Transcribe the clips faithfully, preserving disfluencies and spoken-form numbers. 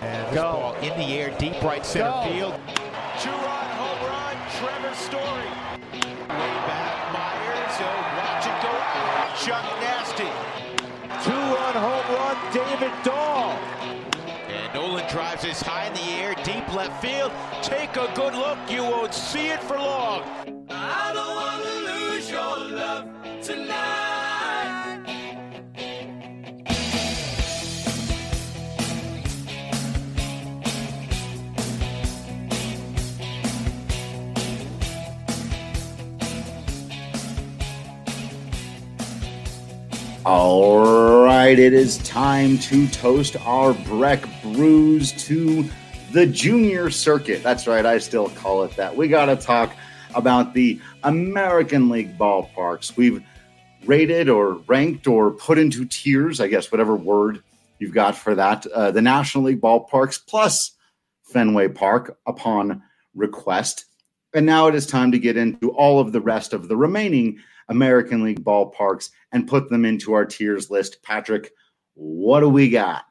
And this Go. ball in the air, deep right center Go. field. Two-run home run, Trevor Story. Way back, Myers. So watch it go out. Chuck Nasty. Two-run home run, David Dahl. And Nolan drives this high in the air, deep left field. Take a good look. You won't see it for long. I don't want to lose your love tonight. All right, it is time to toast our Breck Brews to the junior circuit. That's right, I still call it that. We got to talk about the American League ballparks. We've rated or ranked or put into tiers, I guess, whatever word you've got for that, uh, the National League ballparks plus Fenway Park upon request. And now it is time to get into all of the rest of the remaining American League ballparks and put them into our tiers list. Patrick, what do we got?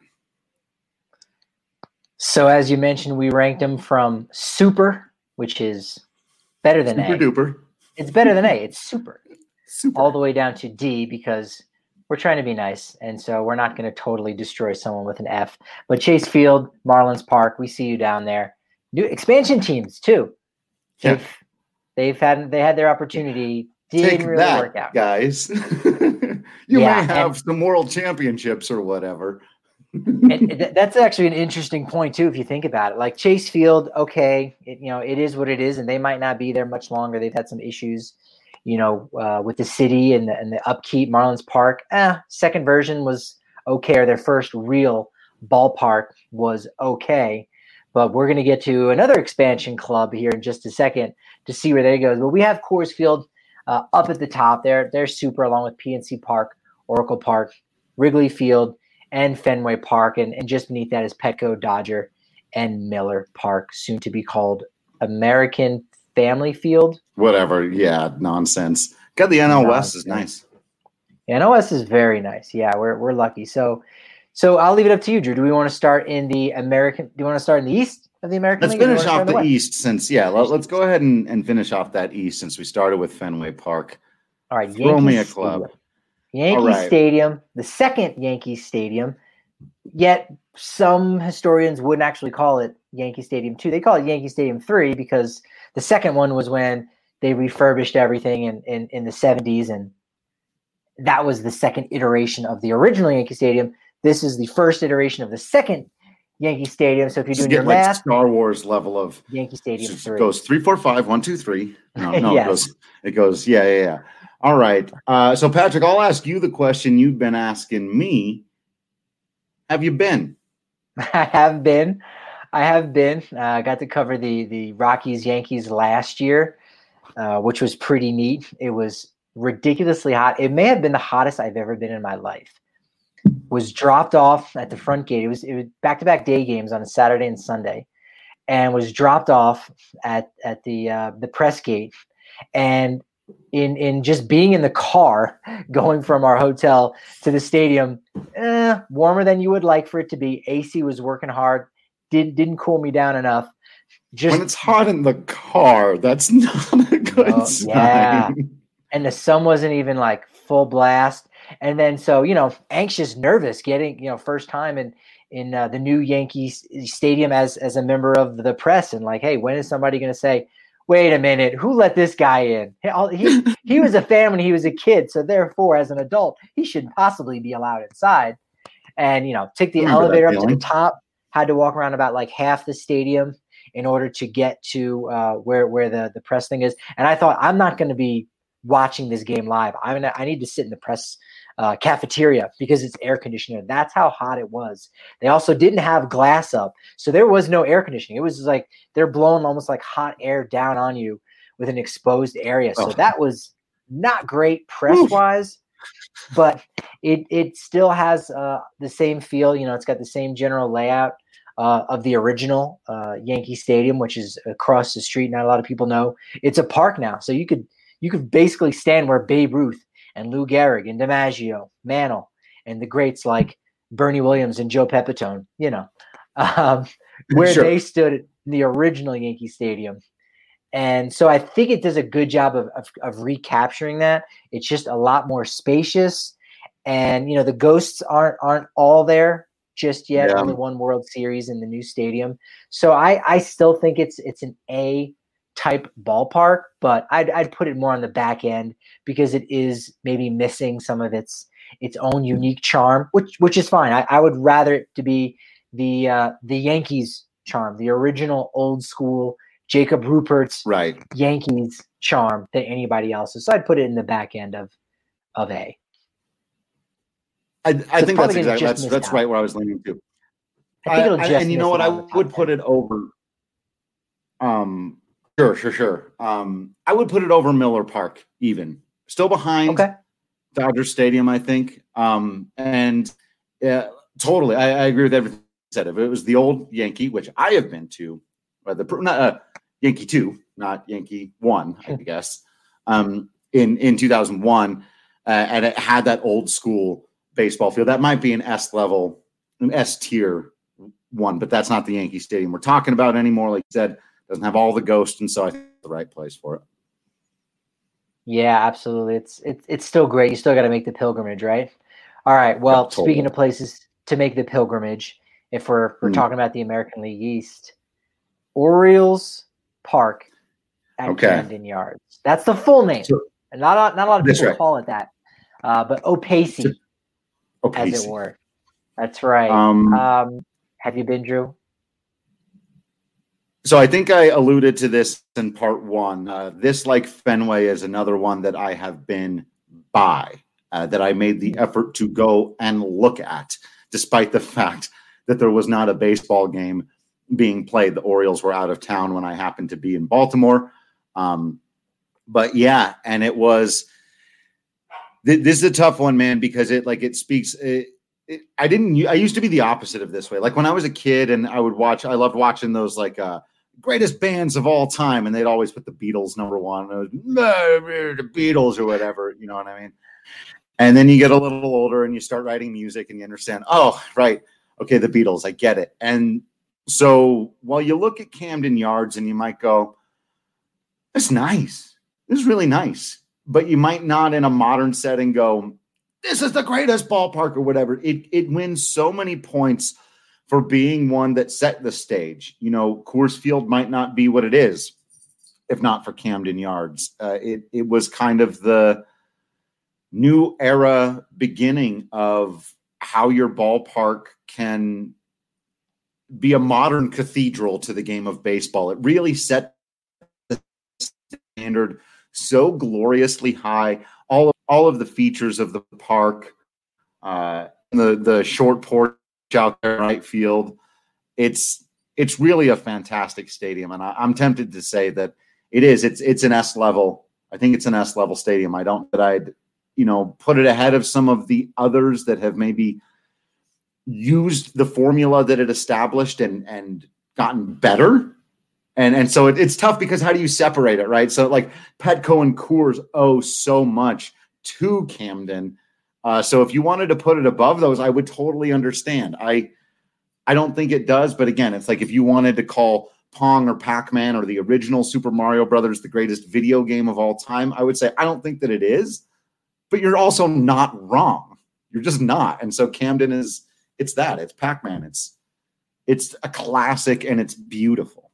So as you mentioned, we ranked them from super, which is better than super A. Duper. It's better than A. It's super. Super. All the way down to D because we're trying to be nice. And so we're not going to totally destroy someone with an F. But Chase Field, Marlins Park, we see you down there. New expansion teams too. Yeah. They've, they've had they had their opportunity. Didn't Take really that, work out. Guys. you Yeah, may have and- some world championships or whatever. And th- that's actually an interesting point too, if you think about it. Like Chase Field, okay, it, you know, it is what it is, and they might not be there much longer. They've had some issues, you know, uh, with the city and the, and the upkeep. Marlins Park, eh, second version was okay, or their first real ballpark was okay. But we're going to get to another expansion club here in just a second to see where they go. But we have Coors Field uh, up at the top there. They're super, along with P N C Park, Oracle Park, Wrigley Field, and Fenway Park. And, and just beneath that is Petco, Dodger, and Miller Park, soon to be called American Family Field. Whatever. Yeah, nonsense. Got the N L West is nice. N L S is very nice. Yeah, we're we're lucky. So so I'll leave it up to you, Drew. Do we want to start in the American? Do you want to start in the East of the American Let's League? or do you finish want to off start the in East since, yeah, let, let's go ahead and, and finish off that East since we started with Fenway Park. All right, Throw me a Yankees club. Stadium. Yankee All right. Stadium, the second Yankee Stadium, yet some historians wouldn't actually call it Yankee Stadium two. They call it Yankee Stadium three because the second one was when they refurbished everything in, in, in the seventies, and that was the second iteration of the original Yankee Stadium. This is the first iteration of the second Yankee Stadium. So if you're Just doing get your like math, Star Wars level of Yankee Stadium just three. goes three, four, five, one, two, three. No, no, Yes. it goes, it goes, yeah, yeah, yeah. All right. Uh, so Patrick, I'll ask you the question you've been asking me. Have you been? I have been. I have been. I uh, got to cover the the Rockies Yankees last year, uh, which was pretty neat. It was ridiculously hot. It may have been the hottest I've ever been in my life. Was dropped off at the front gate. It was it was back-to-back day games on a Saturday and Sunday, and was dropped off at at the uh, the press gate. And in in just being in the car going from our hotel to the stadium, eh, warmer than you would like for it to be. A C was working hard, didn't didn't cool me down enough. Just When it's hot in the car, that's not a good Oh, sign. yeah. And the sun wasn't even like full blast. And then so, you know, anxious, nervous, getting, you know, first time in in uh, the new Yankees Stadium as as a member of the press, and like, hey, when is somebody going to say, wait a minute, who let this guy in? He, he, he was a fan when he was a kid, so therefore, as an adult, he shouldn't possibly be allowed inside. And, you know, took the Remember that elevator up to the feeling. top, had to walk around about like half the stadium in order to get to uh, where where the, the press thing is. And I thought, I'm not going to be watching this game live. I'm gonna, I need to sit in the press uh, cafeteria because it's air conditioning. That's how hot it was. They also didn't have glass up, so there was no air conditioning. It was like they're blowing almost like hot air down on you with an exposed area. So Oh. that was not great press wise, but it it still has uh, the same feel. You know, it's got the same general layout uh, of the original uh, Yankee Stadium, which is across the street. Not a lot of people know it's a park now, so you could you could basically stand where Babe Ruth and Lou Gehrig and DiMaggio, Mantle, and the greats like Bernie Williams and Joe Pepitone, you know, um, where Sure. they stood in the original Yankee Stadium. And so I think it does a good job of, of, of recapturing that. It's just a lot more spacious. And, you know, the ghosts aren't aren't all there just yet. Yeah. Only one World Series in the new stadium. So I, I still think it's it's an A type ballpark, but I'd I'd put it more on the back end because it is maybe missing some of its its own unique charm, which which is fine. I, I would rather it to be the uh, the Yankees charm, the original old school Jacob Rupert's Right. Yankees charm than anybody else's. So I'd put it in the back end of of A. I, I So it's think probably that's gonna exactly just that's miss that's out. right where I was leaning to. I think it'll I- just and you miss know what? it I on the top would put ten. it over. Um, sure, sure, sure. Um, I would put it over Miller Park, even still behind Okay. Dodger Stadium, I think. Um, and yeah, totally, I, I agree with everything you said. If it was the old Yankee, which I have been to, uh, the not uh, Yankee two, not Yankee one, I guess, um, in in two thousand one, uh, and it had that old school baseball field. That might be an S level, an S tier one, but that's not the Yankee Stadium we're talking about anymore. Like you said, doesn't have all the ghosts, and so I think it's the right place for it. Yeah, absolutely. It's it's it's still great. You still got to make the pilgrimage, right? All right. Well, Yeah, totally. speaking of places to make the pilgrimage, if we're if we're Mm. talking about the American League East, Orioles Park at Okay. Camden Yards. That's the full name. So- And not a, not a lot of That's people right. call it that, uh, but Opacey, So- Okay. as it were. That's right. Um, Um, have you been, Drew? So I think I alluded to this in part one. Uh, this, like Fenway, is another one that I have been by, uh, that I made the effort to go and look at, despite the fact that there was not a baseball game being played. The Orioles were out of town when I happened to be in Baltimore. Um, but yeah, and it was, th- this is a tough one, man, because it like it speaks, it, it, I didn't, I used to be the opposite of this way. Like when I was a kid and I would watch, I loved watching those like, uh, greatest bands of all time, and they'd always put the Beatles number one. It was, the Beatles or whatever, you know what I mean? And then you get a little older and you start writing music and you understand, oh, right, okay, the Beatles, I get it. And so while you look at Camden Yards and you might go, that's nice. This is really nice. But you might not in a modern setting go, this is the greatest ballpark or whatever. It it wins so many points for being one that set the stage. You know, Coors Field might not be what it is if not for Camden Yards. Uh, it it was kind of the new era beginning of how your ballpark can be a modern cathedral to the game of baseball. It really set the standard so gloriously high. All of, all of the features of the park, uh, the the short porch out there in right field. It's it's really a fantastic stadium, and I, I'm tempted to say that it is. It's it's an S level. I think it's an S level stadium. I don't that I'd you know put it ahead of some of the others that have maybe used the formula that it established and and gotten better. And and so it, it's tough because how do you separate it, right? So like Petco and Coors owe so much to Camden. Uh, so if you wanted to put it above those, I would totally understand. I I don't think it does, but again, it's like if you wanted to call Pong or Pac-Man or the original Super Mario Brothers the greatest video game of all time, I would say I don't think that it is, but you're also not wrong. You're just not. And so Camden is it's that. It's Pac-Man. It's it's a classic and it's beautiful.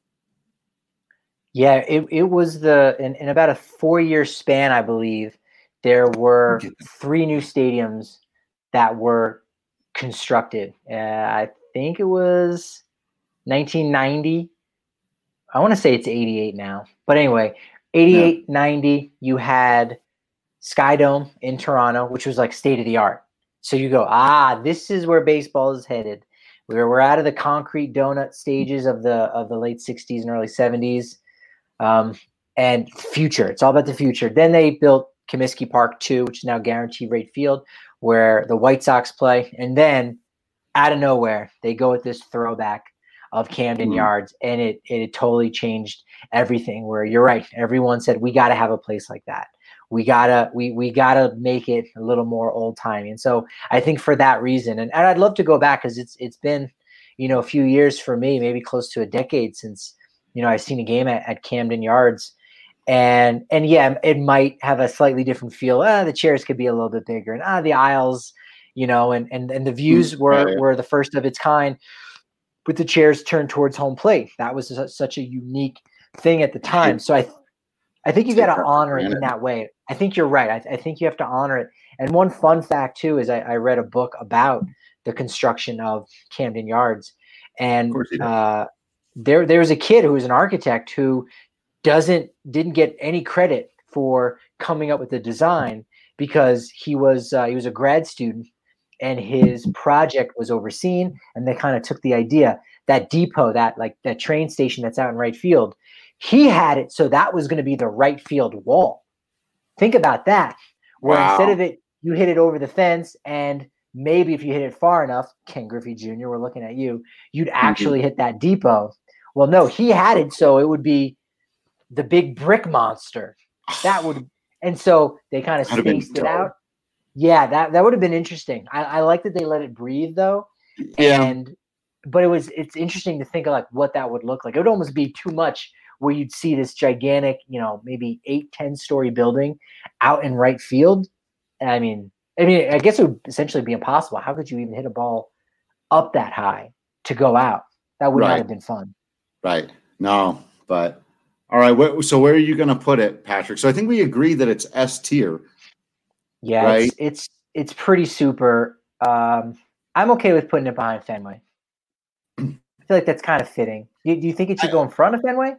Yeah, it, it was the in, in about a four-year span, I believe, there were three new stadiums that were constructed. Uh, I think it was nineteen ninety. I want to say it's eighty-eight now. But anyway, eighty-eight, yeah. ninety, you had Skydome in Toronto, which was like state-of-the-art. So you go, ah, this is where baseball is headed. We're, we're out of the concrete donut stages of the of the late sixties and early seventies. Um, and future. It's all about the future. Then they built Comiskey Park two, which is now Guaranteed Rate Field, where the White Sox play. And then out of nowhere, they go with this throwback of Camden mm-hmm. Yards, and it it totally changed everything. Where you're right, everyone said we got to have a place like that. We gotta we we gotta make it a little more old timey. And so I think for that reason, and, and I'd love to go back because it's it's been. you know, a few years for me, maybe close to a decade since, you know, I've seen a game at, at Camden Yards. And, and yeah, it might have a slightly different feel. Ah, the chairs could be a little bit bigger, and ah, the aisles, you know, and, and, and the views were, were the first of its kind with the chairs turned towards home plate. That was a, such a unique thing at the time. So I, I think you got to honor it in that way. I think you're right. I, I think you have to honor it. And one fun fact too, is I, I read a book about the construction of Camden Yards, and uh, there, there was a kid who was an architect who doesn't, didn't get any credit for coming up with the design, because he was, uh, he was a grad student and his project was overseen, and they kind of took the idea, that depot, that like that train station that's out in right field, he had it. So that was going to be the right field wall. Think about that. Where wow. instead of it, you hit it over the fence, and maybe if you hit it far enough, Ken Griffey Junior, we're looking at you, you'd actually mm-hmm. hit that depot. Well, no, he had it. So it would be the big brick monster. That would, and so they kind of spaced it out. Yeah, that, that would have been interesting. I, I like that they let it breathe though. Yeah. And, but it was, it's interesting to think of like what that would look like. It would almost be too much where you'd see this gigantic, you know, maybe eight, ten story building out in right field. I mean, I mean, I guess it would essentially be impossible. How could you even hit a ball up that high to go out? That would right. not have been fun. Right. No, but all right. Wh- so where are you going to put it, Patrick? So I think we agree that it's S tier. Yeah, right? it's, it's it's pretty super. Um, I'm okay with putting it behind Fenway. I feel like that's kind of fitting. Do, do you think it should I, go in front of Fenway?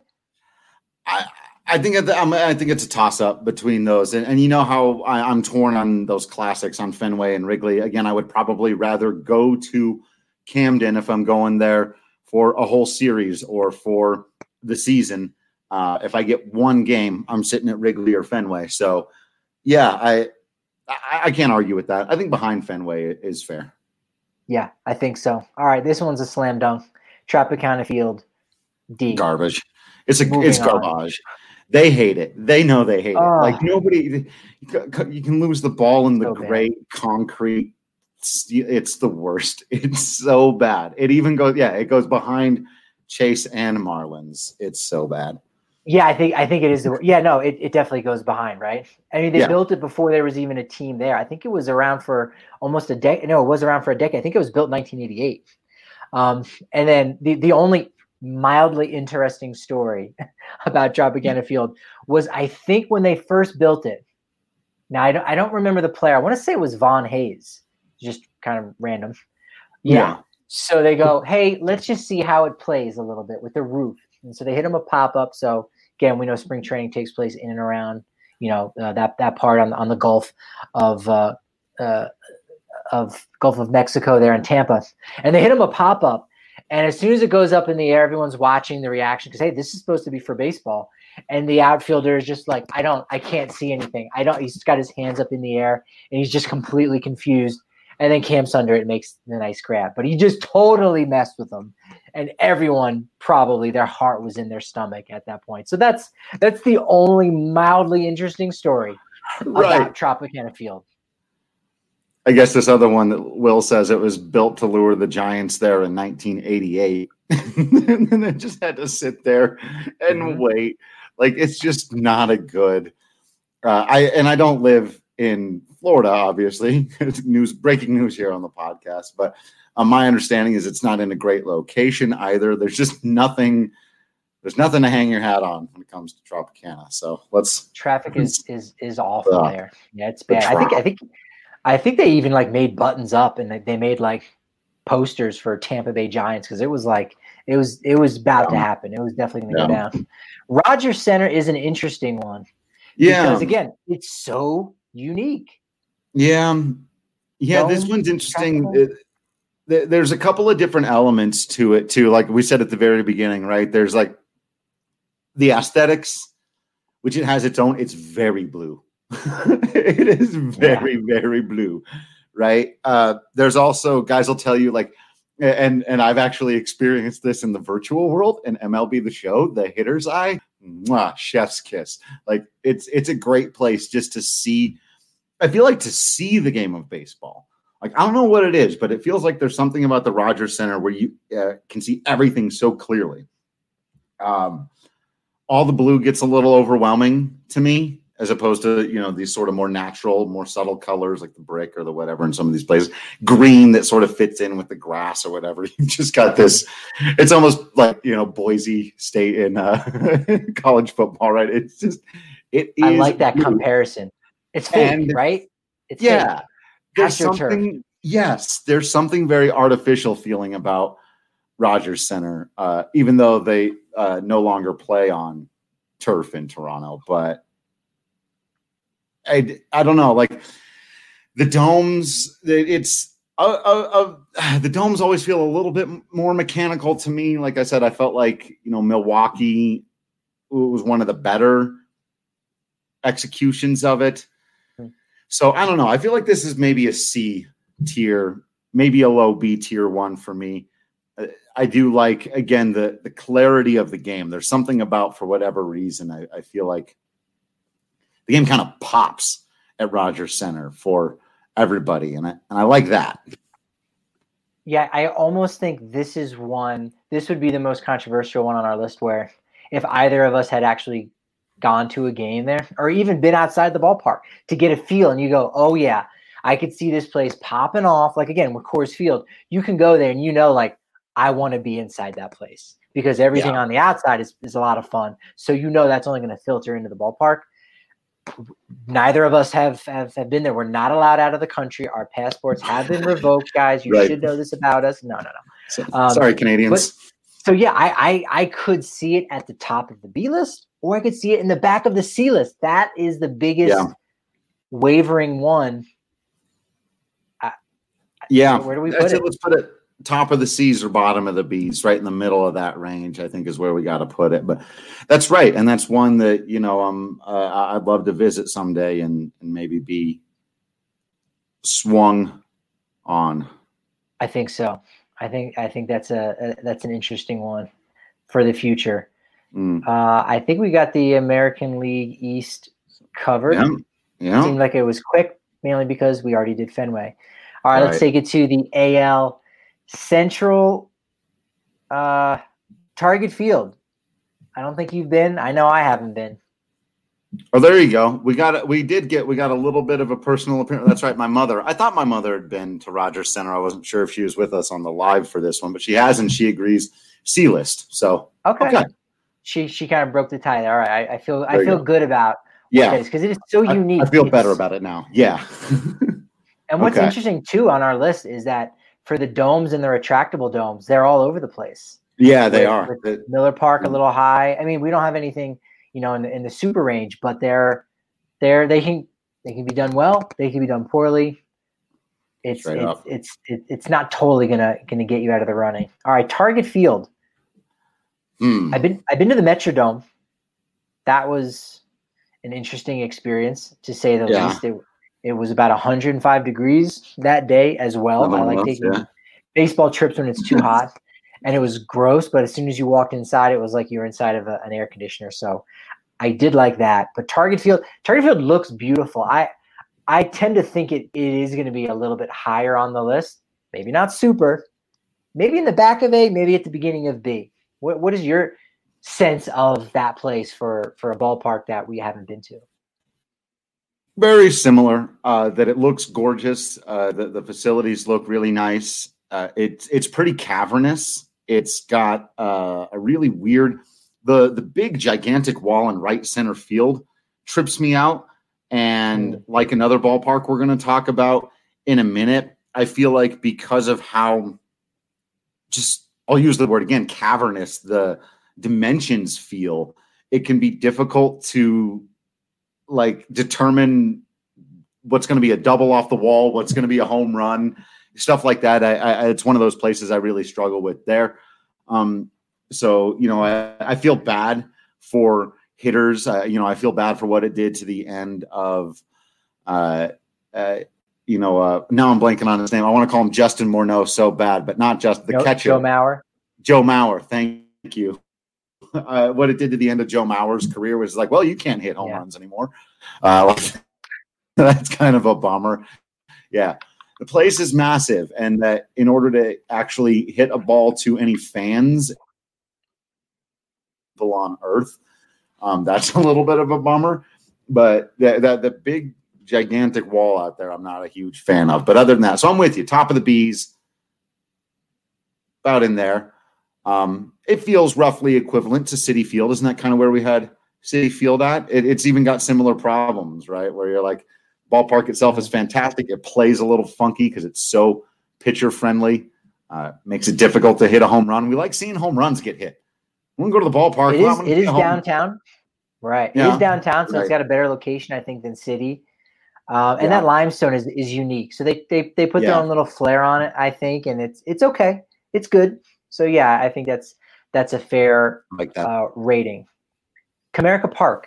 I I think at the, I'm, I think it's a toss up between those, and, and you know how I, I'm torn on those classics on Fenway and Wrigley. Again, I would probably rather go to Camden if I'm going there for a whole series or for the season. Uh, if I get one game, I'm sitting at Wrigley or Fenway. So, yeah, I, I I can't argue with that. I think behind Fenway is fair. Yeah, I think so. All right, this one's a slam dunk. Tropicana Field, D. Garbage. It's a Moving it's garbage. On. They hate it. They know they hate uh, it. Like nobody, you can lose the ball in the so gray bad. concrete. It's, it's the worst. It's so bad. It even goes, yeah, it goes behind Chase and Marlins. It's so bad. Yeah, I think I think it is. The, yeah, no, it, it definitely goes behind, right? I mean, they yeah. built it before there was even a team there. I think it was around for almost a decade. No, it was around for a decade. I think it was built in nineteen eighty-eight. Um, and then the, the only mildly interesting story about Tropicana Field was, I think when they first built it, now I don't, I don't remember the player. I want to say it was Vaughn Hayes, just kind of random. Yeah. yeah. So they go, hey, let's just see how it plays a little bit with the roof. And so they hit him a pop-up. So again, we know spring training takes place in and around, you know, uh, that, that part on, on the Gulf of, uh, uh, of Gulf of Mexico there in Tampa. And they hit him a pop-up. And as soon as it goes up in the air, everyone's watching the reaction because, hey, this is supposed to be for baseball. And the outfielder is just like, I don't, I can't see anything. I don't, he's got his hands up in the air and he's just completely confused. And then camps under it and makes the nice grab. But he just totally messed with them. And everyone probably their heart was in their stomach at that point. So that's that's the only mildly interesting story right. about Tropicana Field. I guess this other one that Will says it was built to lure the Giants there in nineteen eighty-eight. And then it just had to sit there and mm-hmm. wait. Like, it's just not a good uh, – I and I don't live in Florida, obviously. news breaking news here on the podcast. But uh, my understanding is it's not in a great location either. There's just nothing – there's nothing to hang your hat on when it comes to Tropicana. So let's – Traffic is is is awful uh, there. Yeah, it's bad. I think I think – I think they even like made buttons up and they made like posters for Tampa Bay Giants because it was like it was it was about yeah. to happen. It was definitely going to yeah. go down. Rogers Center is an interesting one. Yeah, because again, it's so unique. Yeah, yeah. Dome, this one's interesting. It, th- there's a couple of different elements to it too. Like we said at the very beginning, right? There's like the aesthetics, which it has its own. It's very blue. It is very, yeah. very blue, right? Uh, there's also guys will tell you like, and and I've actually experienced this in the virtual world in M L B The Show, the hitter's eye, mwah, chef's kiss. Like it's it's a great place just to see. I feel like to see the game of baseball Like, I don't know what it is, but it feels like there's something about the Rogers Center where you uh, can see everything so clearly. Um, all the blue gets a little overwhelming to me, as opposed to, you know, these sort of more natural, more subtle colors like the brick or the whatever in some of these places. Green that sort of fits in with the grass or whatever. You just got this. It's almost like, you know, Boise State in uh, college football, right? It's just, it is. I like that blue. comparison. It's fake, And, right? It's yeah. fake. There's AstroTurf. something, yes, there's something very artificial feeling about Rogers Center, uh, even though they uh, no longer play on turf in Toronto. But I, I don't know, like the domes, it's uh, uh, uh, the domes always feel a little bit more mechanical to me. Like I said, I felt like, you know, Milwaukee was one of the better executions of it. So I don't know. I feel like this is maybe a C tier, maybe a low B tier one for me. I do like, again, the the clarity of the game. There's something about, for whatever reason, I, I feel like the game kind of pops at Rogers Center for everybody, and I and I like that. Yeah, I almost think this is one. This would be the most controversial one on our list, where if either of us had actually gone to a game there or even been outside the ballpark to get a feel, and you go, oh yeah, I could see this place popping off. Like, again, with Coors Field, you can go there and you know, like, I want to be inside that place because everything Yeah. on the outside is, is a lot of fun. So you know that's only going to filter into the ballpark. Neither of us have, have have been there. We're not allowed out of the country. Our passports have been revoked, guys. You Right. should know this about us. No, no, no. So, Um, sorry, Canadians. But, so yeah, I, I I could see it at the top of the B list, or I could see it in the back of the C list. That is the biggest Yeah. wavering one. yeah, Where do we That's put it? Let's put it top of the C's or bottom of the B's, right in the middle of that range, I think is where we got to put it. But that's right. And that's one that, you know, um, uh, I'd love to visit someday and, and maybe be swung on. I think so. I think I think that's a, a that's an interesting one for the future. Mm. Uh, I think we got the American League East covered. Yeah. Yeah. Seemed like it was quick, mainly because we already did Fenway. All right, Right. let's take it to the A L Central uh, Target Field. I don't think you've been. I know I haven't been. Oh, there you go. We got it. We did get, we got a little bit of a personal appearance. That's right. My mother, I thought my mother had been to Rogers Center. I wasn't sure if she was with us on the live for this one, but she has, and she agrees. C list. So, Okay. okay. She she kind of broke the tie there. All right. I, I feel There I you feel go. good about Yeah. because it is so I, unique. I feel It's- better about it now. Yeah. And what's Okay. interesting too on our list is that for the domes and the retractable domes, they're all over the place. Yeah, they With- are. with It- Miller Park a Mm. little high. I mean, we don't have anything, you know, in the in the super range, but they're they're they can they can be done well. They can be done poorly. It's Straight it's up. it's it, it's not totally gonna gonna get you out of the running. All right, Target Field. Hmm. I've been I've been to the Metrodome. That was an interesting experience to say the Yeah. least. It it was about one hundred five degrees that day as well. Another I like one of those, taking yeah. baseball trips when it's too hot, and it was gross. But as soon as you walked inside, it was like you were inside of a, an air conditioner. So I did like that. But Target Field, Target Field looks beautiful. I I tend to think it, it is going to be a little bit higher on the list. Maybe not super. Maybe in the back of A. Maybe at the beginning of B. What what is your sense of that place for for a ballpark that we haven't been to? Very similar. Uh, that it looks gorgeous. Uh, the the facilities look really nice. Uh, it's it's pretty cavernous. It's got uh, a really weird. The the big gigantic wall in right center field trips me out. And Mm. like another ballpark we're going to talk about in a minute, I feel like because of how just I'll use the word again, cavernous, the dimensions feel, it can be difficult to like determine what's going to be a double off the wall, what's going to be a home run, stuff like that. I, I, it's one of those places I really struggle with there. Um, so, you know, I, I feel bad for hitters. Uh, you know, I feel bad for what it did to the end of, uh, uh, you know, uh, now I'm blanking on his name. I want to call him Justin Morneau so bad, but not just the Joe, catcher. Joe Mauer. Joe Mauer. Thank you. Uh, what it did to the end of Joe Mauer's career was like, well, you can't hit home Yeah. runs anymore. Uh, that's kind of a bummer. Yeah. the place is massive, and that in order to actually hit a ball to any fans on Earth, um, that's a little bit of a bummer. But the, the, the big, gigantic wall out there, I'm not a huge fan of. But other than that, so I'm with you. Top of the B's, about in there. Um, it feels roughly equivalent to Citi Field. Isn't that kind of where we had Citi Field at? It, it's even got similar problems, right? Where you're like, ballpark itself is fantastic. It plays a little funky because it's so pitcher friendly. Uh, makes it difficult to hit a home run. We like seeing home runs get hit. When we go to the ballpark, it well, is, it is downtown. Right. Yeah. It is downtown, so Right. it's got a better location, I think, than City. Um, and Yeah. that limestone is, is unique. So they, they, they put Yeah. their own little flair on it, I think, and it's it's okay. It's good. So, yeah, I think that's that's a fair like that. uh, rating. Comerica Park.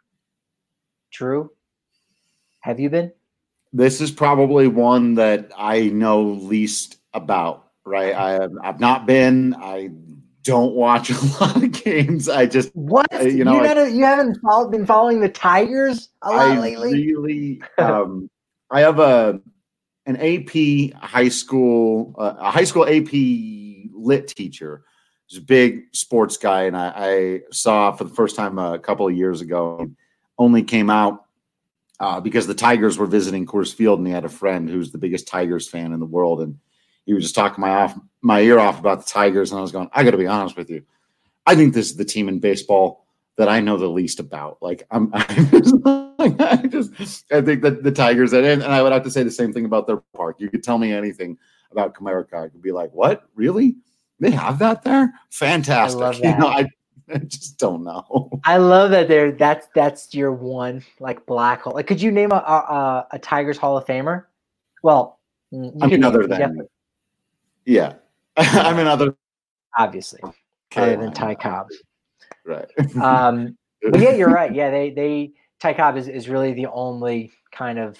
Drew, have you been? This is probably one that I know least about, right? I have, I've not been. I don't watch a lot of games. I just What? Uh, you know, you, I- gotta, you haven't follow, been following the Tigers a lot I lately? really, um, I have a an A P high school, uh, a high school A P lit teacher. He's a big sports guy, and I, I saw for the first time a couple of years ago. Only came out uh, because the Tigers were visiting Coors Field, and he had a friend who's the biggest Tigers fan in the world, and he was just talking my off my ear off about the Tigers, and I was going, I got to be honest with you, I think this is the team in baseball that I know the least about. Like I'm, I'm just, like, I just, I think that the Tigers, and, and I would have to say the same thing about their park. You could tell me anything about Comerica, I could be like, what? Really? They have that there? Fantastic. I love You that. know, I, I just don't know. I love that there. That's that's your one like black hole. Like, could you name a a, a Tigers Hall of Famer? Well, mm, you I mean, could other name- than, definitely- yeah. I mean, other, obviously, other than Ty Cobb. right. Um, but yeah, you're right. Yeah, they they Ty Cobb is, is really the only kind of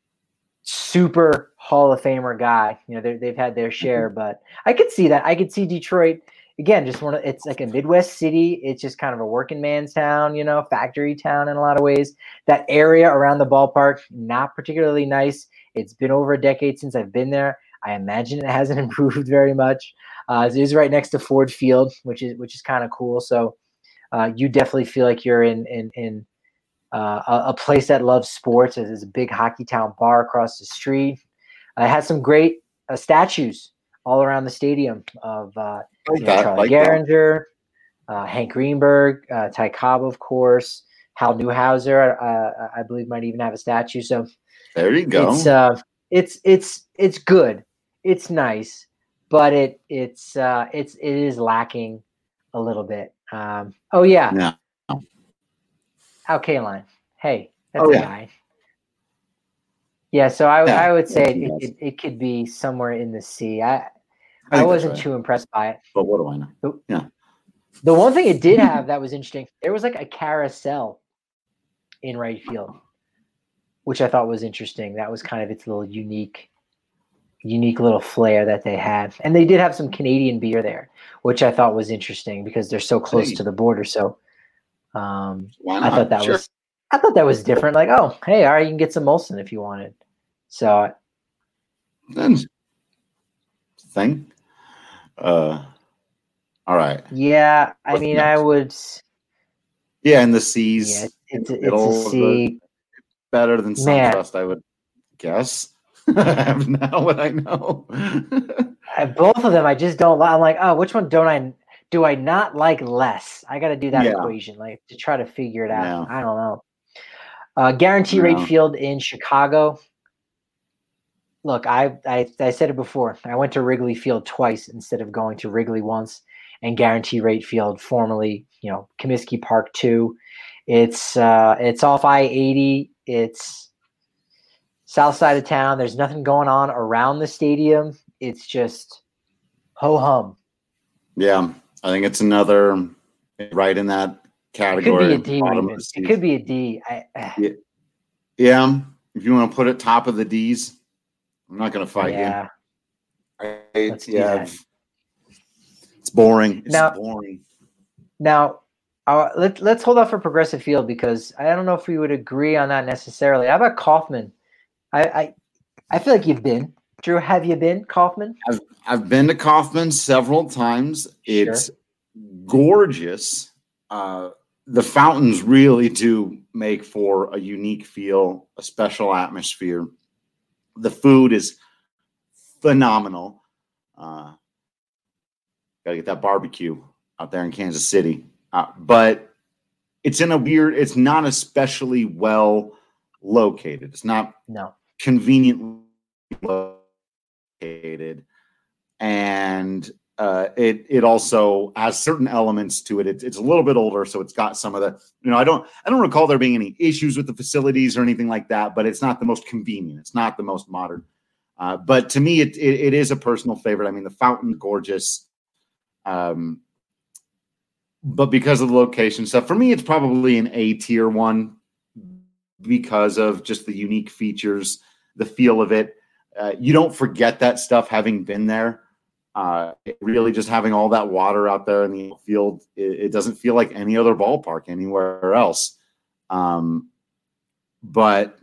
super Hall of Famer guy. You know, they they've had their share, but I could see that. I could see Detroit again. Just one of it's like a Midwest city. It's just kind of a working man's town. You know, factory town in a lot of ways. That area around the ballpark not particularly nice. It's been over a decade since I've been there. I imagine it hasn't improved very much. Uh, it is right next to Ford Field, which is which is kind of cool. So uh, you definitely feel like you're in in in uh, a, a place that loves sports. There's a big Hockey Town bar across the street. Uh, it has some great uh, statues all around the stadium of uh, Like you know, that, Charlie like that. Gehringer, uh, Hank Greenberg, uh, Ty Cobb, of course. Hal Newhouser, uh, I believe, might even have a statue. So There you go. it's uh, it's it's it's good. It's nice, but it it's uh, it's it is lacking a little bit. Um, oh yeah, yeah. Al Kaline. Hey, that's Oh, a yeah. guy. Yeah, so I, Yeah, I would say yeah, it, he it, does. it, it could be somewhere in the sea. I I I, think that's wasn't right. too impressed by it. But what do I know? The one thing it did have that was interesting, there was like a carousel in right field, which I thought was interesting. That was kind of its little unique, unique little flair that they had. And they did have some Canadian beer there, which I thought was interesting because they're so close Hey. to the border. So um, Why I not? thought that Sure. was I thought that was different. Like, oh, hey, all right, you can get some Molson if you wanted. So Then thing. Uh, all right. yeah, I What's mean, next? I would. Yeah, in the seas. Yeah, it's in it's, the it's middle a of the- C. better than Man. SunTrust, I would guess. Now what I know. I, both of them, I just don't. li- I'm like, oh, which one don't I? Do I not like less? I got to do that Yeah. equation, like to try to figure it out. Yeah. I don't know. Uh, guarantee rate Yeah. field in Chicago. Look, I, I I said it before. I went to Wrigley Field twice instead of going to Wrigley once, and guarantee rate field, formerly, you know, Comiskey Park two. It's uh, it's off I eighty. It's south side of town. There's nothing going on around the stadium. It's just ho hum. Yeah, I think it's another right in that It could category. be a D. bottom of Even. the It seas. could be a D. I, Yeah, if you want to put it top of the D's, I'm not going to fight yeah. you. I, Let's do yeah, that. it's boring. It's Now- boring. Now, uh, let, let's hold off for Progressive Field because I don't know if we would agree on that necessarily. How about Kaufman? I I, I feel like you've been Drew, have you been Kauffman? I've I've been to Kauffman several times. It's Sure. gorgeous. Uh, the fountains really do make for a unique feel, a special atmosphere. The food is phenomenal. Uh, gotta get that barbecue out there in Kansas City. Uh, but it's in a weird, it's not especially well located. It's not No. conveniently located. And uh, it it also has certain elements to it. It's, it's a little bit older, so it's got some of the, you know, I don't I don't recall there being any issues with the facilities or anything like that, but it's not the most convenient. It's not the most modern. Uh, but to me, it, it it is a personal favorite. I mean, the fountain, gorgeous. Um, but because of the location stuff, for me, it's probably an A tier one because of just the unique features, the feel of it. Uh, you don't forget that stuff having been there. Uh, it really just having all that water out there in the field, it, it doesn't feel like any other ballpark anywhere else. Um, but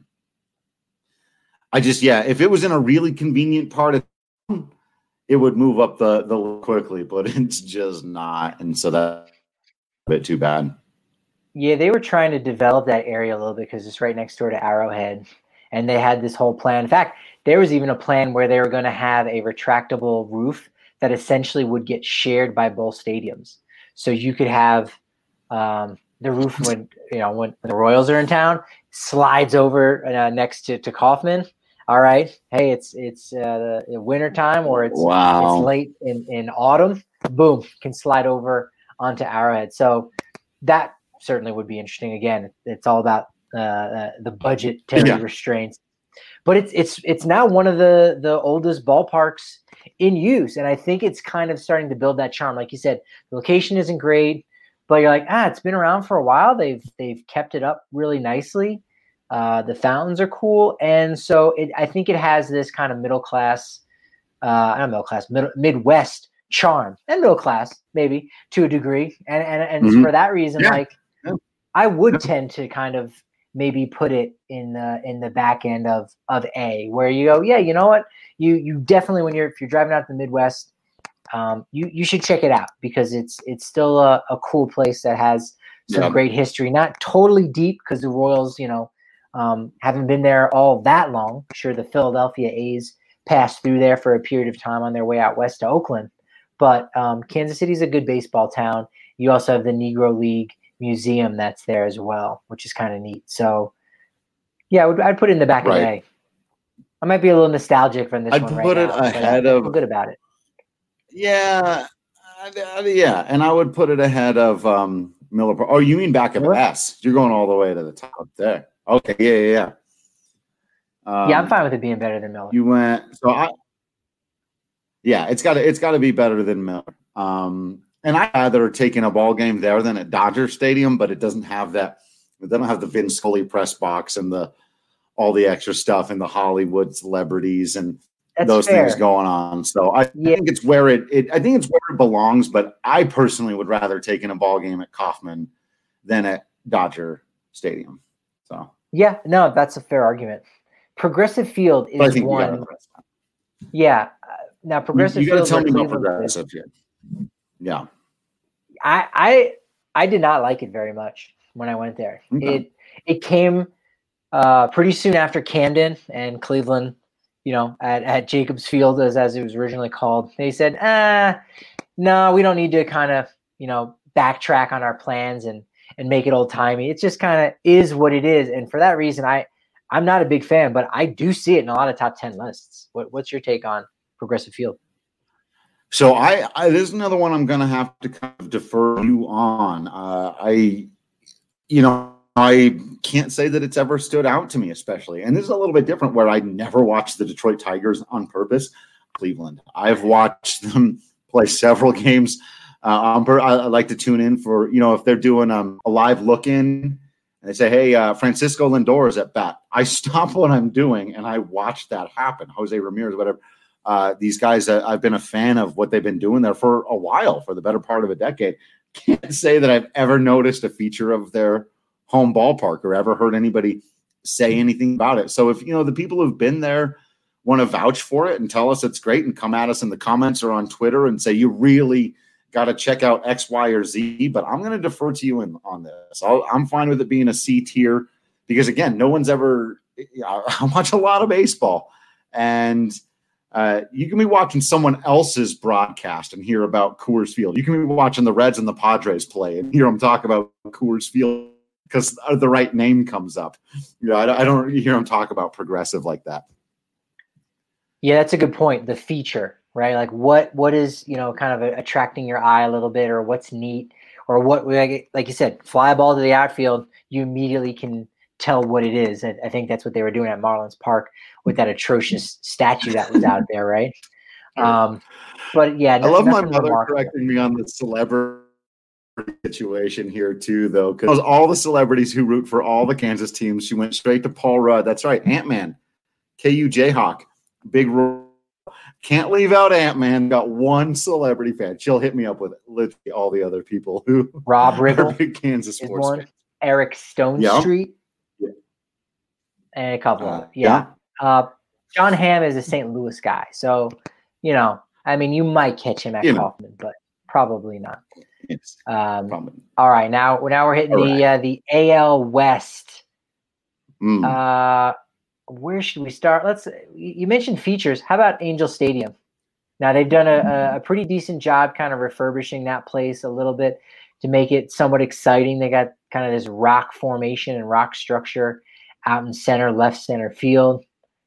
I just, yeah, if it was in a really convenient part of town, it would move up the, the quickly, but it's just not. And so that's a bit too bad. Yeah, they were trying to develop that area a little bit because it's right next door to Arrowhead. And they had this whole plan. In fact, there was even a plan where they were going to have a retractable roof that essentially would get shared by both stadiums. So you could have um, the roof when, you know, when the Royals are in town, slides over uh, next to, to Kauffman. All right. Hey, it's it's uh, the winter time or it's, Wow. it's late in, in autumn. Boom, can slide over onto Arrowhead. So that certainly would be interesting. Again, it's all about uh, uh, the budgetary Yeah. restraints. But it's it's it's now one of the the oldest ballparks in use, and I think it's kind of starting to build that charm. Like you said, the location isn't great, but you're like, ah, it's been around for a while. They've they've kept it up really nicely. Uh, the fountains are cool, and so it, I think it has this kind of middle class, uh, not middle class, middle, Midwest charm, and middle class maybe to a degree. And and and Mhm. for that reason, Yeah. like Yeah. I would tend to kind of maybe put it in the in the back end of of A, where you go, yeah, you know what, you you definitely when you're if you're driving out to the Midwest, um, you you should check it out because it's it's still a, a cool place that has some Yeah. great history. Not totally deep because the Royals, you know, um, haven't been there all that long. Sure, the Philadelphia A's passed through there for a period of time on their way out west to Oakland, but um, Kansas City is a good baseball town. You also have the Negro League Museum that's there as well, which is kind of neat. So, yeah, I would, I'd put it in the back Right. of A. I might be a little nostalgic from this I'd one put right it now, but I ahead feel of- good about it. Yeah. I- I- yeah. And I would put it ahead of um, Miller Park. Oh, you mean back of Miller? S? You're going all the way to the top there. Okay. Yeah. Yeah. Yeah. Um, Yeah, I'm fine with it being better than Miller. You went so I yeah, it's gotta it's gotta be better than Miller. Um and I'd rather taking a ball game there than at Dodger Stadium, but it doesn't have that they don't have the Vince Scully press box and the all the extra stuff and the Hollywood celebrities and That's those fair. things going on. So I Yeah. think it's where it, it I think it's where it belongs, but I personally would rather taking a ball game at Kauffman than at Dodger Stadium. So Yeah, no, that's a fair argument. Progressive Field but I is think you one. gotta Yeah. Uh, now, You, Progressive you gotta Field. tell where me about Cleveland is- progressive here. Yeah. I, I I did not like it very much when I went there. Okay. It it came uh, pretty soon after Camden and Cleveland, you know, at, at Jacobs Field as as it was originally called. They said, ah, no, we don't need to kind of, you know, backtrack on our plans and and make it old timey. It just kind of is what it is. And for that reason, I I'm not a big fan, but I do see it in a lot of top ten lists. What what's your take on Progressive Field? So I, I there's another one I'm going to have to kind of defer you on. Uh, I, you know, I can't say that it's ever stood out to me, especially. And this is a little bit different where I never watched the Detroit Tigers on purpose. Cleveland. I've watched them play several games. Uh, on pur- I, I like to tune in for, you know, if they're doing um, a live look-in and they say, hey, uh, Francisco Lindor is at bat. I stop what I'm doing and I watch that happen. Jose Ramirez, whatever. Uh, these guys, uh, I've been a fan of what they've been doing there for a while, for the better part of a decade. Can't say that I've ever noticed a feature of their home ballpark or ever heard anybody say anything about it. So if, you know, the people who've been there want to vouch for it and tell us it's great and come at us in the comments or on Twitter and say you really got to check out X, Y, or Z. But I'm going to defer to you in, on this. I'll, I'm fine with it being a C tier because, again, no one's ever – I watch a lot of baseball. And uh, you can be watching someone else's broadcast and hear about Coors Field. You can be watching the Reds and the Padres play and hear them talk about Coors Field because the right name comes up. You know, I, I don't hear them talk about Progressive like that. Yeah, that's a good point. The feature, right? Like what what is, you know, kind of attracting your eye a little bit, or what's neat, or what, like, like you said, fly a ball to the outfield, you immediately can tell what it is. And I think that's what they were doing at Marlins Park with that atrocious statue that was out there, right? Um, but yeah, I love my mother correcting me on the celebrity situation here too, though, because all the celebrities who root for all the Kansas teams, she went straight to Paul Rudd. That's right, Ant-Man, K U Jayhawk, big role. Can't leave out Ant-Man. Got one celebrity fan. She'll hit me up with literally all the other people who Rob Riggle, are big Kansas sports fans. Eric Stone yeah. Street, yeah. and a couple uh, of yeah. yeah. Uh, John Hamm is a Saint Louis guy, so you know, I mean, you might catch him at you Kaufman, know. but probably not. Yes, um, probably. All right, now now we're hitting all the right. uh, the A L West. Mm. Uh, where should we start? Let's. You mentioned features. How about Angel Stadium? Now they've done a, a pretty decent job, kind of refurbishing that place a little bit to make it somewhat exciting. They got kind of this rock formation and rock structure out in center, left center field.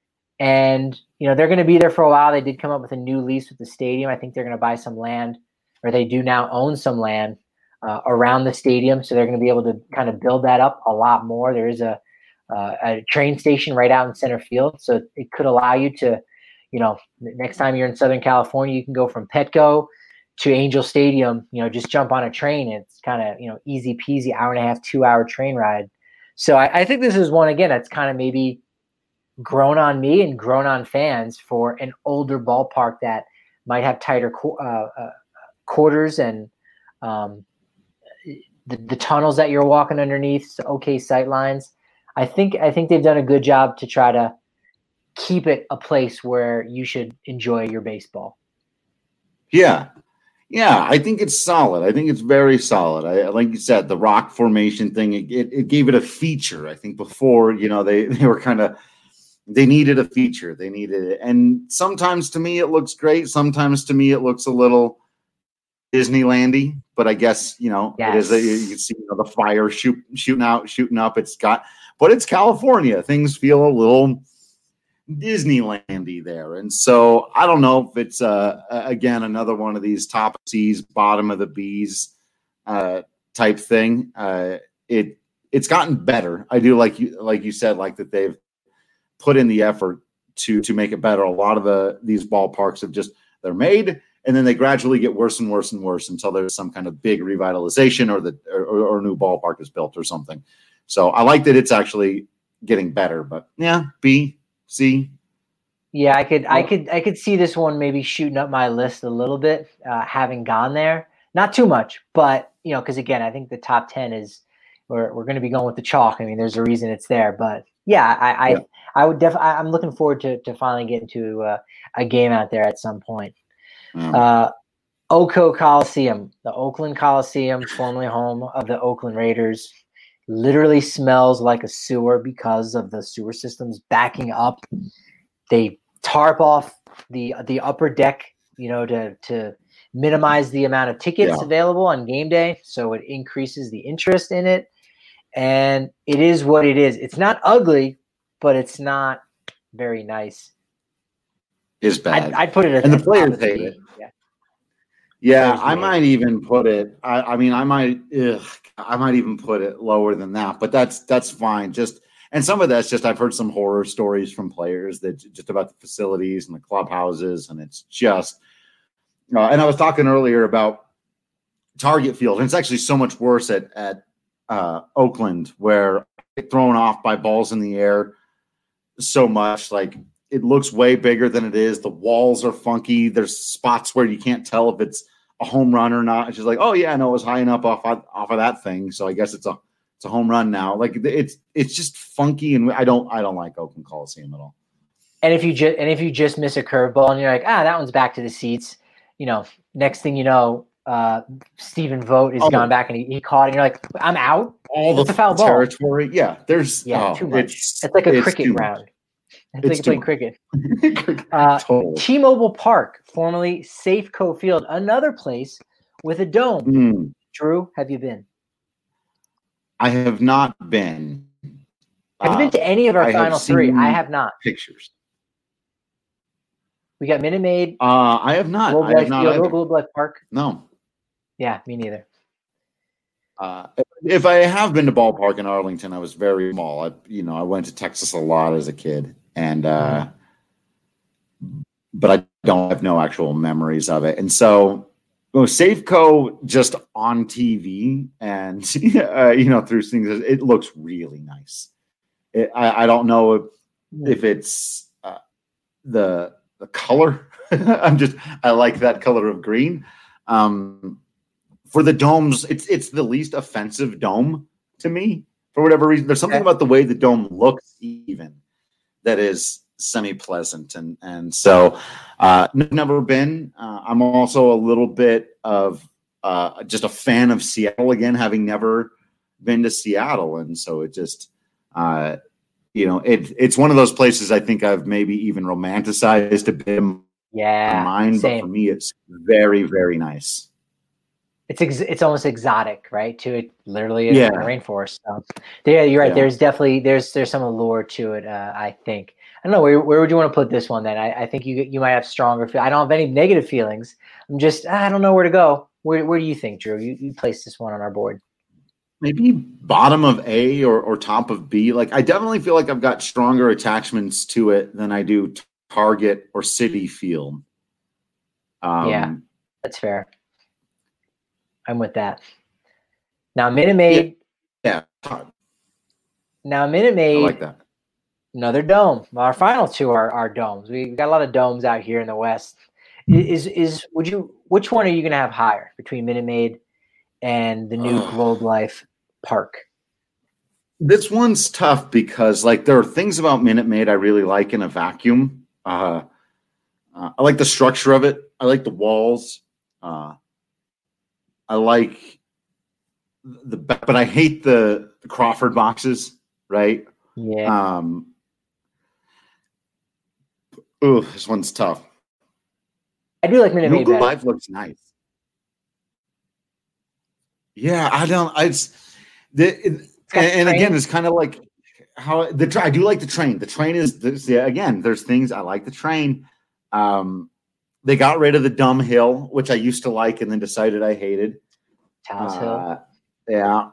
And, you know, they're going to be there for a while. They did come up with a new lease with the stadium. I think they're going to buy some land, or they do now own some land uh, around the stadium. So they're going to be able to kind of build that up a lot more. There is a, uh, a train station right out in center field. So it could allow you to, you know, next time you're in Southern California, you can go from Petco to Angel Stadium, you know, just jump on a train. It's kind of, you know, easy peasy, hour and a half, two hour train ride. So I, I think this is one, again, that's kind of maybe grown on me and grown on fans for an older ballpark that might have tighter qu- uh, uh, quarters and um, the, the tunnels that you're walking underneath, so okay sight lines. I think I think they've done a good job to try to keep it a place where you should enjoy your baseball. Yeah. Yeah, I think it's solid. I think it's very solid. I, like you said, the rock formation thing, it, it, it gave it a feature. I think before, you know, they, they were kind of, they needed a feature. They needed it. And sometimes to me, it looks great. Sometimes to me, it looks a little Disneylandy, but I guess, you know, yes. it is, a, you can see, you know, the fire shoot, shooting out, shooting up. It's got, but it's California. Things feel a little Disneylandy there. And so I don't know if it's, uh, again, another one of these top C's, bottom of the B's uh, type thing. Uh, it, it's gotten better. I do like you, like you said, like that they've put in the effort to, to make it better. A lot of the, these ballparks have just, they're made and then they gradually get worse and worse and worse until there's some kind of big revitalization or the, or, or a new ballpark is built or something. So I like that it's actually getting better, but yeah, B, C. Yeah, I could, I could, I could see this one maybe shooting up my list a little bit, uh, having gone there, not too much, but you know, because again, I think the top ten is we're we're going to be going with the chalk. I mean, there's a reason it's there, but yeah, I, I, yeah. I would definitely. I'm looking forward to to finally getting to uh, a game out there at some point. Mm. Uh, Oco Coliseum, the Oakland Coliseum, formerly home of the Oakland Raiders, literally smells like a sewer because of the sewer systems backing up. They tarp off the the upper deck, you know, to to minimize the amount of tickets yeah. available on game day, so it increases the interest in it. And it is what it is. It's not ugly, but it's not very nice. It's bad. I'd, I'd put it at and the players hate it. Yeah, yeah I might it. even put it. I, I mean, I might. Ugh, I might even put it lower than that. But that's that's fine. Just and some of that's just I've heard some horror stories from players that just about the facilities and the clubhouses, and it's just. Uh, and I was talking earlier about Target Field, and it's actually so much worse at at. Uh, Oakland, where I get thrown off by balls in the air so much. Like it looks way bigger than it is. The walls are funky. There's spots where you can't tell if it's a home run or not. It's just like, oh yeah, no, it was high enough off off of that thing, so I guess it's a it's a home run now. Like it's it's just funky, and I don't I don't like Oakland Coliseum at all. And if you just and if you just miss a curveball and you're like, ah, that one's back to the seats, you know, next thing you know, uh, Stephen Vogt has Oh. gone back and he, he caught it. And you're like, I'm out. All It's the a foul ball. territory. Yeah, there's Yeah, oh, too much. It's, It's like a it's cricket too much. ground. It's, It's like too playing cricket. Uh, Totally. T-Mobile Park, formerly Safeco Field, another place with a dome. Mm, Drew, have you been? I have not been. Have you Uh, been to any of our I have final three? seen I have not. Pictures. We got Minute Maid, Uh, I have not. Globe I have Life not Field, or either. Globe Life Park. No. Yeah, me neither. Uh, if I have been to ballpark in Arlington, I was very small. I, you know, I went to Texas a lot as a kid, and uh, but I don't have no actual memories of it. And so, well, Safeco just on T V and uh, you know through things, it looks really nice. It, I, I don't know if, if it's uh, the the color. I'm just I like that color of green. Um, For the domes, it's it's the least offensive dome to me for whatever reason. There's something Okay. about the way the dome looks, even that is semi-pleasant, and and so uh, n- never been. Uh, I'm also a little bit of uh, just a fan of Seattle again, having never been to Seattle, and so it just uh, you know it it's one of those places I think I've maybe even romanticized a bit in Yeah, my mind, same. but for me, it's very very nice. It's ex- it's almost exotic, right? To it, literally in Yeah. the rainforest. So, yeah, you're right. Yeah. There's definitely there's there's some allure to it. Uh, I think. I don't know where where would you want to put this one? Then I, I think you you might have stronger. Feel- I don't have any negative feelings. I'm just I don't know where to go. Where where do you think, Drew? You you placed this one on our board. Maybe bottom of A or, or top of B. Like I definitely feel like I've got stronger attachments to it than I do Target or Citi Field. Um, Yeah. That's fair. I'm with that. Now Minute Maid. yeah, I Now Minute Maid. like that. Another dome. Our final two are, are domes. We got a lot of domes out here in the West. Is is would you which one are you gonna have higher between Minute Maid and the new Ugh. Globe Life Park? This one's tough because like there are things about Minute Maid I really like in a vacuum. Uh, uh, I like the structure of it. I like the walls. Uh, I like the, but I hate the, the Crawford boxes. Right. Yeah. Um. Ooh, this one's tough. I do like Minute Maid Google better. Live looks nice. Yeah, I don't. I just the it, got and, and train. again, it's kind of like how the tra- I do like the train. The train is this, yeah. Again, there's things I like the train. Um, they got rid of the dumb hill, which I used to like, and then decided I hated. Towers Hill. Uh, yeah,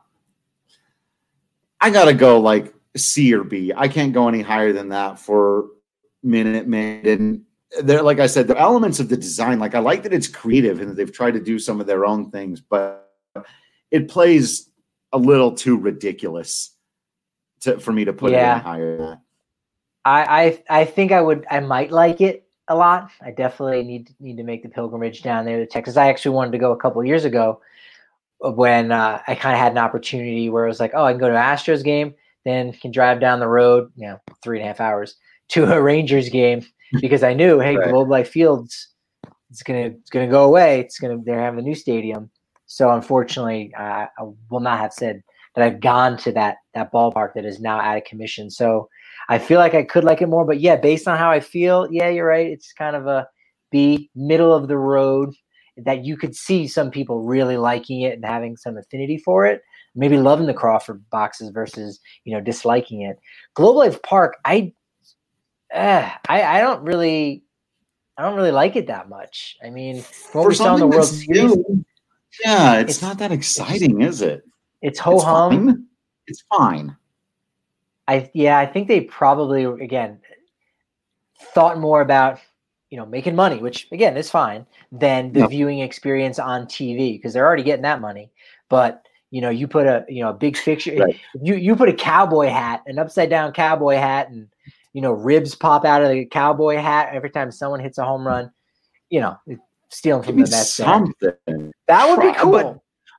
I gotta go like C or B. I can't go any higher than that for Minute Maid. And there, like I said, the elements of the design, like I like that it's creative and that they've tried to do some of their own things, but it plays a little too ridiculous to, for me to put Yeah. it any higher than that. I, I I think I would I might like it a lot. I definitely need need to make the pilgrimage down there to Texas. I actually wanted to go a couple of years ago when uh, I kind of had an opportunity where it was like, oh, I can go to an Astros game, then can drive down the road, you know, three and a half hours to a Rangers game because I knew, hey, Right. Globe Life Fields, it's gonna it's gonna go away. It's gonna they're having a new stadium. So unfortunately, uh, I will not have said that I've gone to that that ballpark that is now out of commission. So I feel like I could like it more, but yeah, based on how I feel, yeah, you're right. It's kind of a B, middle of the road, that you could see some people really liking it and having some affinity for it, maybe loving the Crawford boxes versus, you know, disliking it. Globe Life Park, I, uh, I, I don't really, I don't really like it that much. I mean, what For we saw in the something World that's Series, new, yeah, it's, it's- not that exciting, is it? it's ho It's hum. fine. It's fine. I yeah, I think they probably again thought more about, you know, making money, which again is fine, than the Yeah. viewing experience on T V because they're already getting that money. But you know, you put a you know a big fixture, Right. you you put a cowboy hat, an upside down cowboy hat, and you know ribs pop out of the cowboy hat every time someone hits a home run. You know, stealing from Maybe the Mets. there. something. That would be Try- cool. but-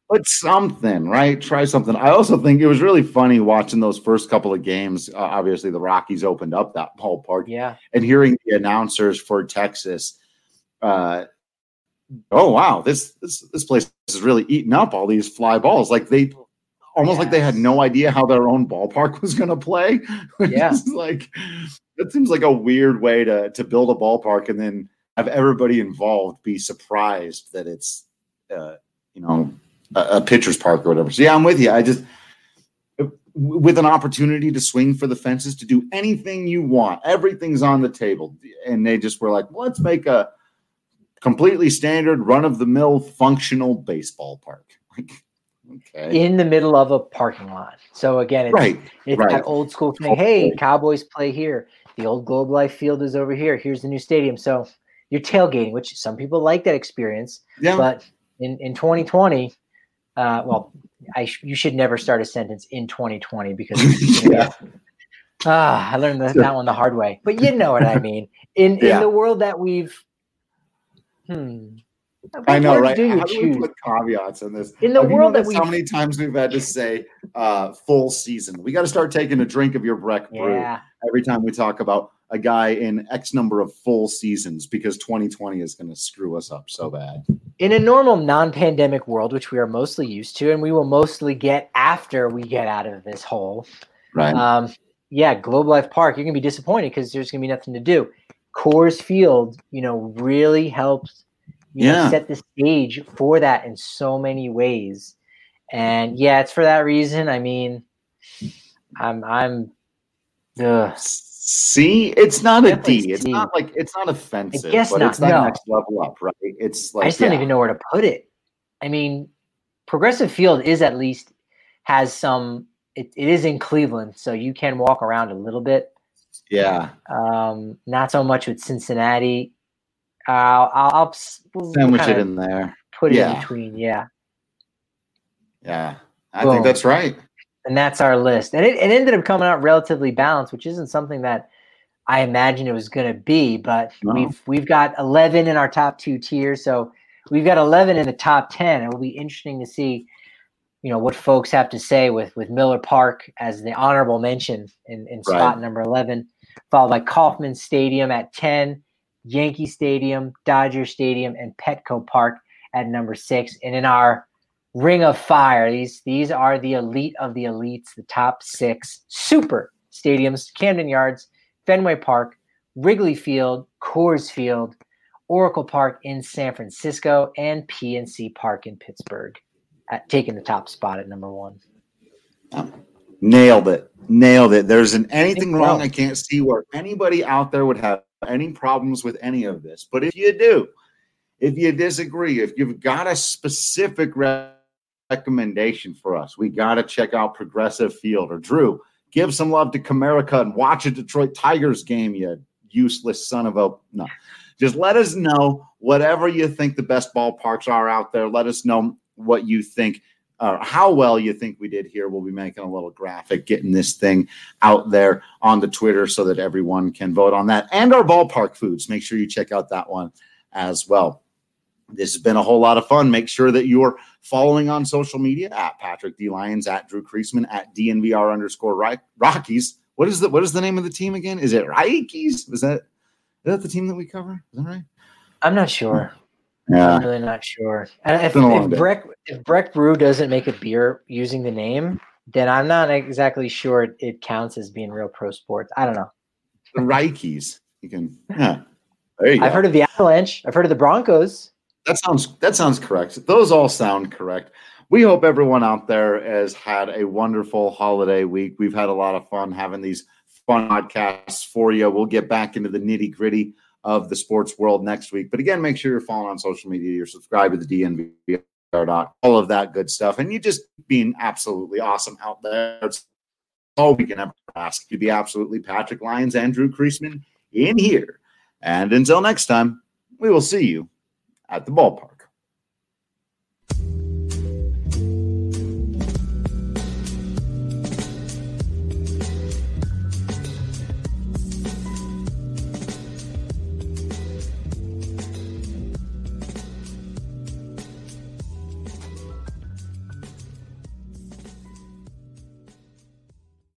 but something, right? Try something. I also think it was really funny watching those first couple of games. Uh, obviously, the Rockies opened up that ballpark, Yeah, and hearing the announcers for Texas. Uh, oh wow, this this this place is really eating up all these fly balls. Like they almost yes. like they had no idea how their own ballpark was going to play. Yeah, like that seems like a weird way to to build a ballpark and then have everybody involved be surprised that it's uh, you know a, a pitcher's park or whatever. So yeah, I'm with you. I just with an opportunity to swing for the fences, to do anything you want, everything's on the table, and they just were like, well, let's make a completely standard, run-of-the-mill, functional baseball park. Like, okay. In the middle of a parking lot. So again, it's, right, it's right. that old school thing. Hey, Cowboys play here. The old Globe Life Field is over here. Here's the new stadium. So you're tailgating, which some people like that experience. Yeah. But in, in twenty twenty, uh, well, I sh- you should never start a sentence in twenty twenty because yeah. ah, I learned that, that one the hard way. But you know what I mean. In yeah. in the world that we've Hmm. I know, right? Do how do we put caveats in this? In the Have world that we how many times we've had to say uh, full season. We got to start taking a drink of your Breck brew yeah. every time we talk about a guy in X number of full seasons because twenty twenty is going to screw us up so bad. In a normal non-pandemic world, which we are mostly used to, and we will mostly get after we get out of this hole. Right. Um, yeah, Globe Life Park, you're going to be disappointed because there's going to be nothing to do. Coors Field, you know, really helps you yeah. know, set the stage for that in so many ways. And yeah, it's for that reason. I mean, I'm, I'm, ugh. See, it's not a Definitely D. It's C. not like, it's not offensive, I guess but not, it's that no. next level up, right? It's like, I just don't yeah. even know where to put it. I mean, Progressive Field is at least has some, it, it is in Cleveland, so you can walk around a little bit. Yeah. Um, not so much with Cincinnati. Uh, I'll, I'll we'll sandwich it in there. Put it yeah. in between. Yeah. Yeah. I Boom. think that's right. And that's our list. And it, it ended up coming out relatively balanced, which isn't something that I imagined it was going to be, but no. we've, we've got eleven in our top two tiers. So we've got eleven in the top ten. It will be interesting to see, you know, what folks have to say with, with Miller Park as the honorable mention in, in spot right. number eleven, followed by Kauffman Stadium at ten, Yankee Stadium, Dodger Stadium, and Petco Park at number six. And in our Ring of Fire, these these are the elite of the elites, the top six super stadiums: Camden Yards, Fenway Park, Wrigley Field, Coors Field, Oracle Park in San Francisco, and P N C Park in Pittsburgh, at taking the top spot at number one. Nailed it. Nailed it. There isn't anything wrong. I can't see where anybody out there would have any problems with any of this. But if you do, if you disagree, if you've got a specific recommendation for us, we got to check out Progressive Field. Or Drew, give some love to Comerica and watch a Detroit Tigers game, you useless son of a no. Just let us know whatever you think the best ballparks are out there. Let us know what you think, uh, how well you think we did here. We'll be making a little graphic, getting this thing out there on the Twitter so that everyone can vote on that. And our ballpark foods. Make sure you check out that one as well. This has been a whole lot of fun. Make sure that you're following on social media at Patrick D. Lyons, at Drew Creasman, at D N V R underscore Rockies. What is the what is the name of the team again? Is it Rockies? Is that is that the team that we cover? Is that right? I'm not sure. Yeah. I'm really not sure. And if, if Breck if Breck Brew doesn't make a beer using the name, then I'm not exactly sure it, it counts as being real pro sports. I don't know. The Rockies. You can. Yeah. There you go. I've heard of the Avalanche. I've heard of the Broncos. That sounds that sounds correct. Those all sound correct. We hope everyone out there has had a wonderful holiday week. We've had a lot of fun having these fun podcasts for you. We'll get back into the nitty gritty of the sports world next week. But again, make sure you're following on social media. You're subscribed to the D N V R dot, all of that good stuff. And you just being absolutely awesome out there. It's all we can ever ask. You be absolutely Patrick Lyons and Drew Creasman in here. And until next time, we will see you at the ballpark.